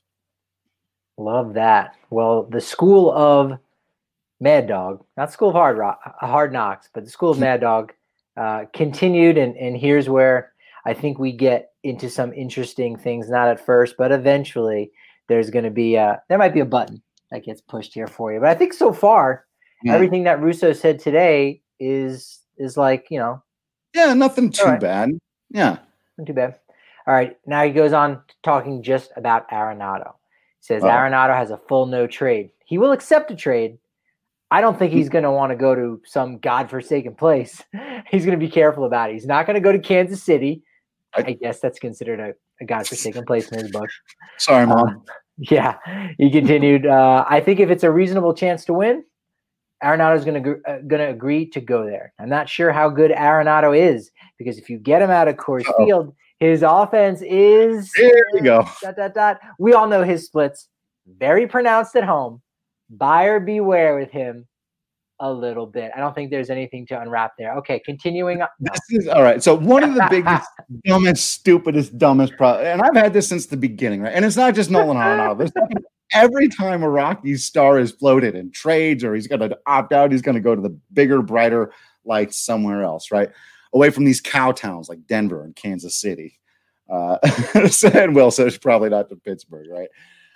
[SPEAKER 6] Love that. Well, the School of Mad Dog, not School of Hard Knocks, but the School of Mad Dog continued. And here's where I think we get into some interesting things, not at first, but eventually there's going to be there might be a button that gets pushed here for you. But I think so far, everything that Russo said today is like,
[SPEAKER 5] nothing too bad. Yeah.
[SPEAKER 6] Not too bad. All right. Now he goes on talking just about Arenado. He says Arenado has a full no trade. He will accept a trade. I don't think he's going to want to go to some godforsaken place. He's going to be careful about it. He's not going to go to Kansas City. I guess that's considered a godforsaken place in his book.
[SPEAKER 5] Sorry, Mom.
[SPEAKER 6] Yeah. He continued, I think if it's a reasonable chance to win, Arenado is going to agree to go there. I'm not sure how good Arenado is, because if you get him out of Coors Field, his offense is –
[SPEAKER 5] There you go.
[SPEAKER 6] We all know his splits. Very pronounced at home. Buyer beware with him a little bit. I don't think there's anything to unwrap there. Okay, continuing.
[SPEAKER 5] This is all right. So one of the biggest, dumbest problems, and I've had this since the beginning, right? And it's not just Nolan Arenado. Every time a Rockies star is floated in trades or he's going to opt out, he's going to go to the bigger, brighter lights somewhere else, right? Away from these cow towns like Denver and Kansas City. And Will says probably not to Pittsburgh, right?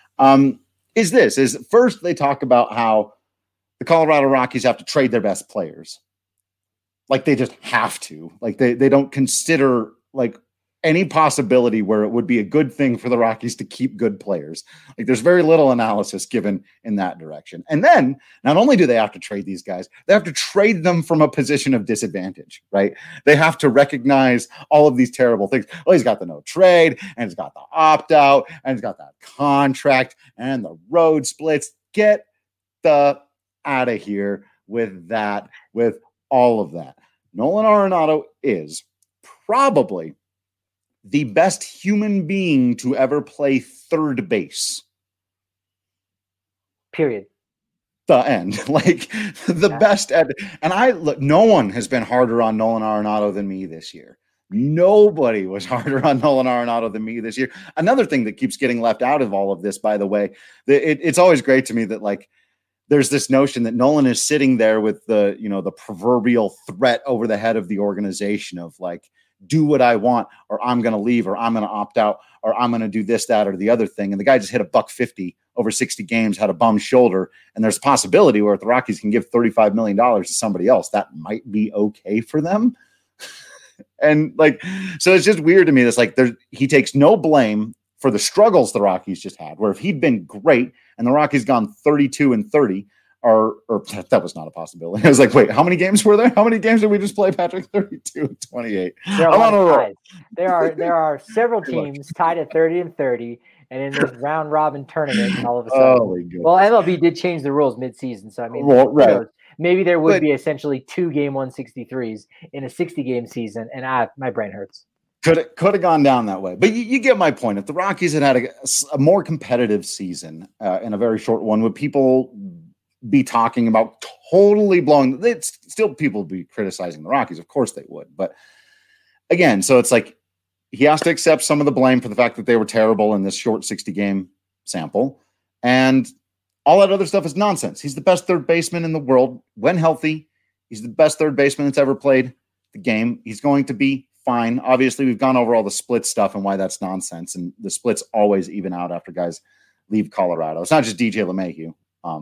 [SPEAKER 5] Is first they talk about how the Colorado Rockies have to trade their best players. Like they just have to. Like they don't consider like any possibility where it would be a good thing for the Rockies to keep good players. Like there's very little analysis given in that direction. And then not only do they have to trade these guys, they have to trade them from a position of disadvantage, right? They have to recognize all of these terrible things. Oh, he's got the no trade and he's got the opt out and he's got that contract and the road splits. Get the out of here with that, with all of that. Nolan Arenado is probably the best human being to ever play third base.
[SPEAKER 6] Period.
[SPEAKER 5] The end. Like the best. And no one has been harder on Nolan Arenado than me this year. Nobody was harder on Nolan Arenado than me this year. Another thing that keeps getting left out of all of this, by the way, it's always great to me that like there's this notion that Nolan is sitting there with the proverbial threat over the head of the organization of like, do what I want, or I'm going to leave, or I'm going to opt out, or I'm going to do this, that, or the other thing. And the guy just hit a $150 over 60 games, had a bum shoulder. And there's a possibility where if the Rockies can give $35 million to somebody else, that might be okay for them. And like, so it's just weird to me. That's like, he takes no blame for the struggles the Rockies just had, where if he'd been great and the Rockies gone 32-30, or that was not a possibility. I was like, wait, how many games were there? How many games did we just play, Patrick? 32-28.
[SPEAKER 6] I'm on a roll. There are several teams tied at 30-30, and in this round robin tournament, all of a sudden, well, MLB did change the rules mid-season, so I mean, maybe there would be essentially 2 game 163s in a 60-game season, and my brain hurts.
[SPEAKER 5] Could have gone down that way. But you get my point. If the Rockies had had a more competitive season in a very short one, would people be talking about totally blowing? Still, people would be criticizing the Rockies. Of course they would. But again, so it's like he has to accept some of the blame for the fact that they were terrible in this short 60-game sample. And all that other stuff is nonsense. He's the best third baseman in the world when healthy. He's the best third baseman that's ever played the game. He's going to be fine. Obviously, we've gone over all the split stuff and why that's nonsense. And the splits always even out after guys leave Colorado. It's not just DJ LeMahieu.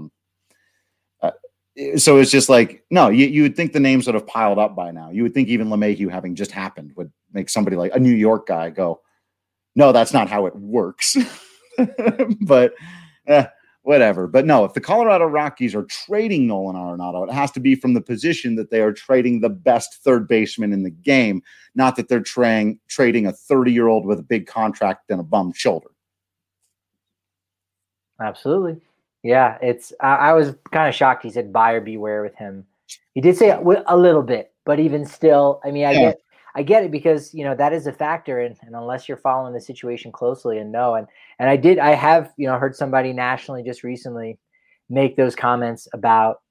[SPEAKER 5] So it's just like, no, you would think the names would have piled up by now. You would think even LeMahieu having just happened would make somebody like a New York guy go, no, that's not how it works. But whatever. But no, if the Colorado Rockies are trading Nolan Arenado, it has to be from the position that they are trading the best third baseman in the game, not that they're trading a 30-year-old with a big contract and a bum shoulder.
[SPEAKER 6] Absolutely. Yeah, I was kind of shocked he said buyer beware with him. He did say a little bit, but even still, I mean, I get it because, that is a factor. And unless you're following the situation closely and know, and I have heard somebody nationally just recently make those comments about,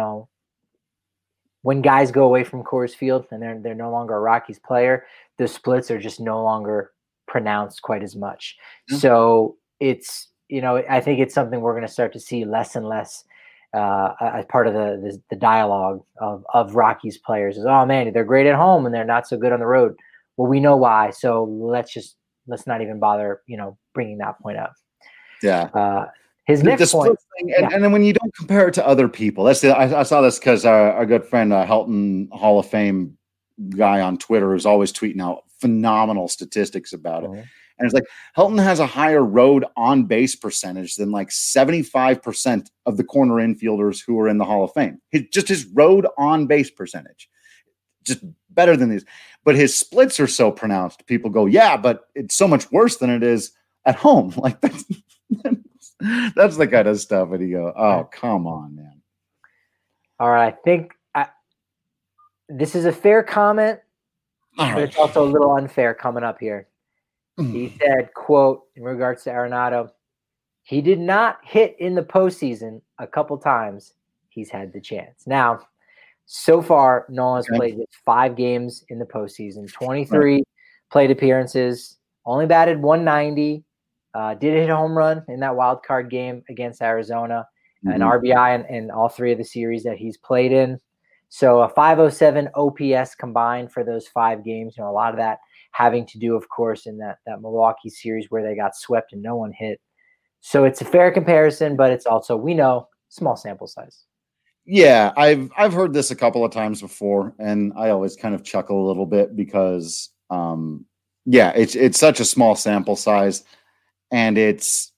[SPEAKER 6] when guys go away from Coors Field and they're no longer a Rockies player, the splits are just no longer pronounced quite as much. Mm-hmm. So it's, I think it's something we're going to start to see less and less as part of the dialogue of Rockies players is, oh man, they're great at home and they're not so good on the road. Well, we know why. So let's not even bother, bringing that point up.
[SPEAKER 5] Yeah.
[SPEAKER 6] His next point.
[SPEAKER 5] Thing, and then when you don't compare it to other people, I saw this because our good friend, Helton Hall of Fame guy on Twitter is always tweeting out phenomenal statistics about it. And it's like Helton has a higher road on base percentage than like 75% of the corner infielders who are in the Hall of Fame. His road on base percentage, just better than these. But his splits are so pronounced. People go, yeah, but it's so much worse than it is at home. Like that's the kind of stuff. And you go, oh, come on, man. All
[SPEAKER 6] right. I think this is a fair comment, but it's also a little unfair coming up here. He said, quote, in regards to Arenado, he did not hit in the postseason a couple times. He's had the chance. Now, so far, Nolan has played 5 games in the postseason, 23 plate appearances, only batted 190, did hit a home run in that wild card game against Arizona, an RBI in all 3 of the series that he's played in. So a 507 OPS combined for those 5 games. A lot of that having to do, of course, in that Milwaukee series where they got swept and no one hit. So it's a fair comparison, but it's also, we know, small sample size.
[SPEAKER 5] Yeah, I've heard this a couple of times before, and I always kind of chuckle a little bit because, it's such a small sample size, and it's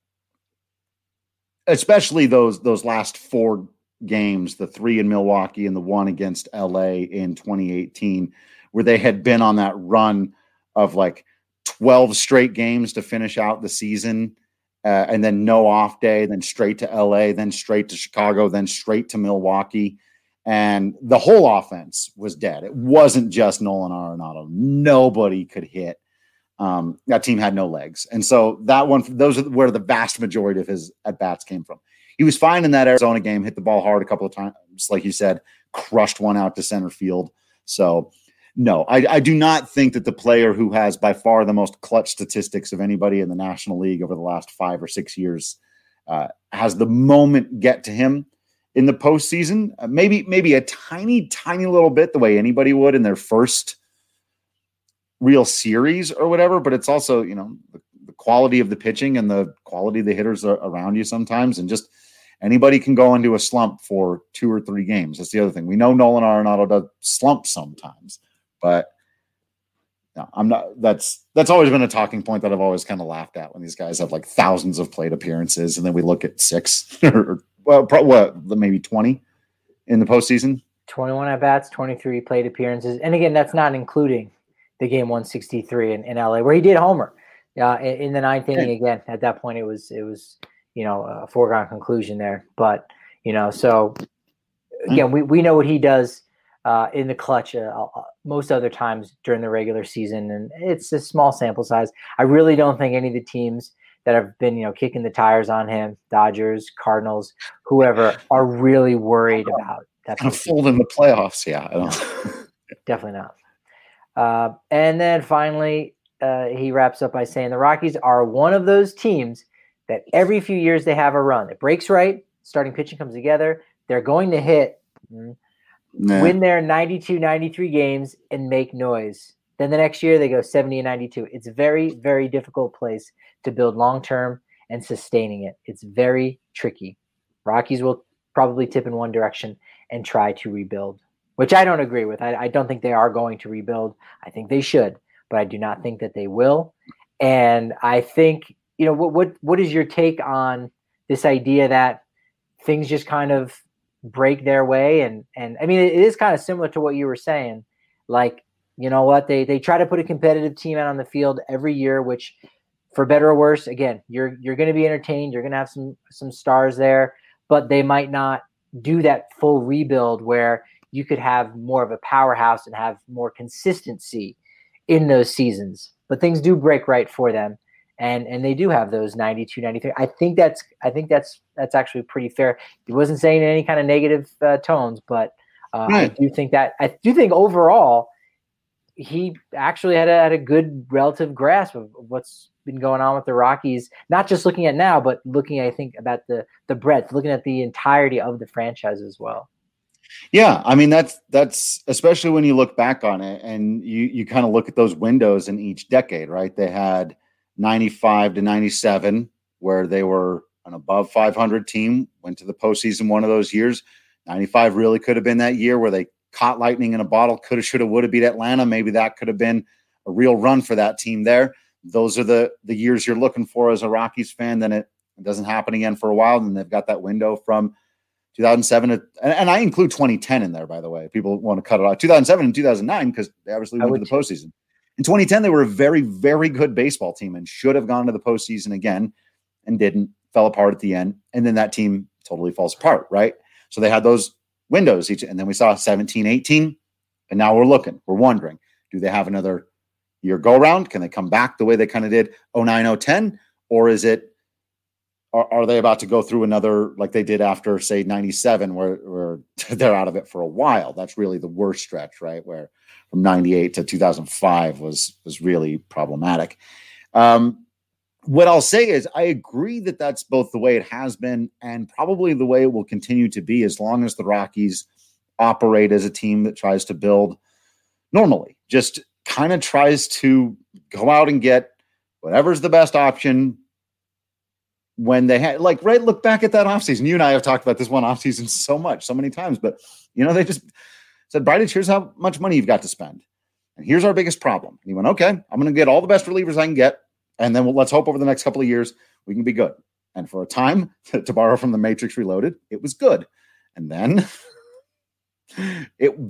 [SPEAKER 5] especially those last 4 games, the 3 in Milwaukee and the 1 against LA in 2018, where they had been on that run of like 12 straight games to finish out the season, and then no off day, then straight to LA, then straight to Chicago, then straight to Milwaukee. And the whole offense was dead. It wasn't just Nolan Arenado. Nobody could hit. That team had no legs. And so those are where the vast majority of his at-bats came from. He was fine in that Arizona game, hit the ball hard a couple of times, like you said, crushed one out to center field. So, no, I do not think that the player who has by far the most clutch statistics of anybody in the National League over the last 5 or 6 years has the moment get to him in the postseason. Maybe a tiny, tiny little bit the way anybody would in their first real series or whatever. But it's also, the quality of the pitching and the quality of the hitters around you sometimes, and just anybody can go into a slump for 2 or 3 games. That's the other thing. We know Nolan Arenado does slump sometimes, but no, I'm not. That's always been a talking point that I've always kind of laughed at when these guys have like thousands of plate appearances, and then we look at 6 or maybe 20 in the postseason.
[SPEAKER 6] 21 at bats, 23 plate appearances, and again, that's not including the game 163 in LA where he did homer. In the 9th inning again. At that point, it was a foregone conclusion there. But so again, we know what he does in the clutch most other times during the regular season, and it's a small sample size. I really don't think any of the teams that have been, kicking the tires on him, Dodgers, Cardinals, whoever, are really worried about that.
[SPEAKER 5] Kind of fold in the playoffs, yeah. I don't.
[SPEAKER 6] Definitely not. And then finally, he wraps up by saying the Rockies are one of those teams that every few years they have a run. It breaks right, starting pitching comes together. They're going to hit, win their 92, 93 games and make noise. Then the next year they go 70 and 92. It's a very, very difficult place to build long-term and sustaining it. It's very tricky. Rockies will probably tip in one direction and try to rebuild, which I don't agree with. I don't think they are going to rebuild. I think they should, but I do not think that they will. And I think, what is your take on this idea that things just kind of break their way? And I mean, it is kind of similar to what you were saying. Like, you know what? They try to put a competitive team out on the field every year, which, for better or worse, again, you're going to be entertained. You're going to have some stars there, but they might not do that full rebuild where you could have more of a powerhouse and have more consistency in those seasons. But things do break right for them, and they do have those 92, 93. I think that's actually pretty fair. He wasn't saying any kind of negative tones, but right. I do think overall he actually had a good relative grasp of what's been going on with the Rockies, not just looking at now, but looking, I think, about the breadth, looking at the entirety of the franchise as well.
[SPEAKER 5] Yeah, I mean, that's especially when you look back on it and you kind of look at those windows in each decade, right? They had 95 to 97 where they were an above 500 team, went to the postseason one of those years. 95 really could have been that year where they caught lightning in a bottle, coulda, shoulda, woulda beat Atlanta. Maybe that could have been a real run for that team there. Those are the years you're looking for as a Rockies fan. Then it doesn't happen again for a while. And they've got that window from 2007 and I include 2010 in there, by the way. People want to cut it off. 2007 and 2009 because they obviously went to the postseason. In 2010, they were a very, very good baseball team and should have gone to the postseason again and didn't. Fell apart at the end. And then that team totally falls apart, right? So they had those windows each. And then we saw 17, 18. And now we're wondering, do they have another year go around? Can they come back the way they kind of did 09, 010? Or is it, are they about to go through another, like they did after, say, 97, where they're out of it for a while? That's really the worst stretch, right? Where from 98 to 2005 was really problematic. What I'll say is I agree that that's both the way it has been and probably the way it will continue to be as long as the Rockies operate as a team that tries to build normally, just kind of tries to go out and get whatever's the best option when they had, like, right, look back at that offseason. You and I have talked about this one offseason so many times, but, they just said, Bridich, here's how much money you've got to spend. And here's our biggest problem. And he went, okay, I'm going to get all the best relievers I can get. And then let's hope over the next couple of years we can be good. And for a time, to borrow from the Matrix Reloaded, it was good. And then it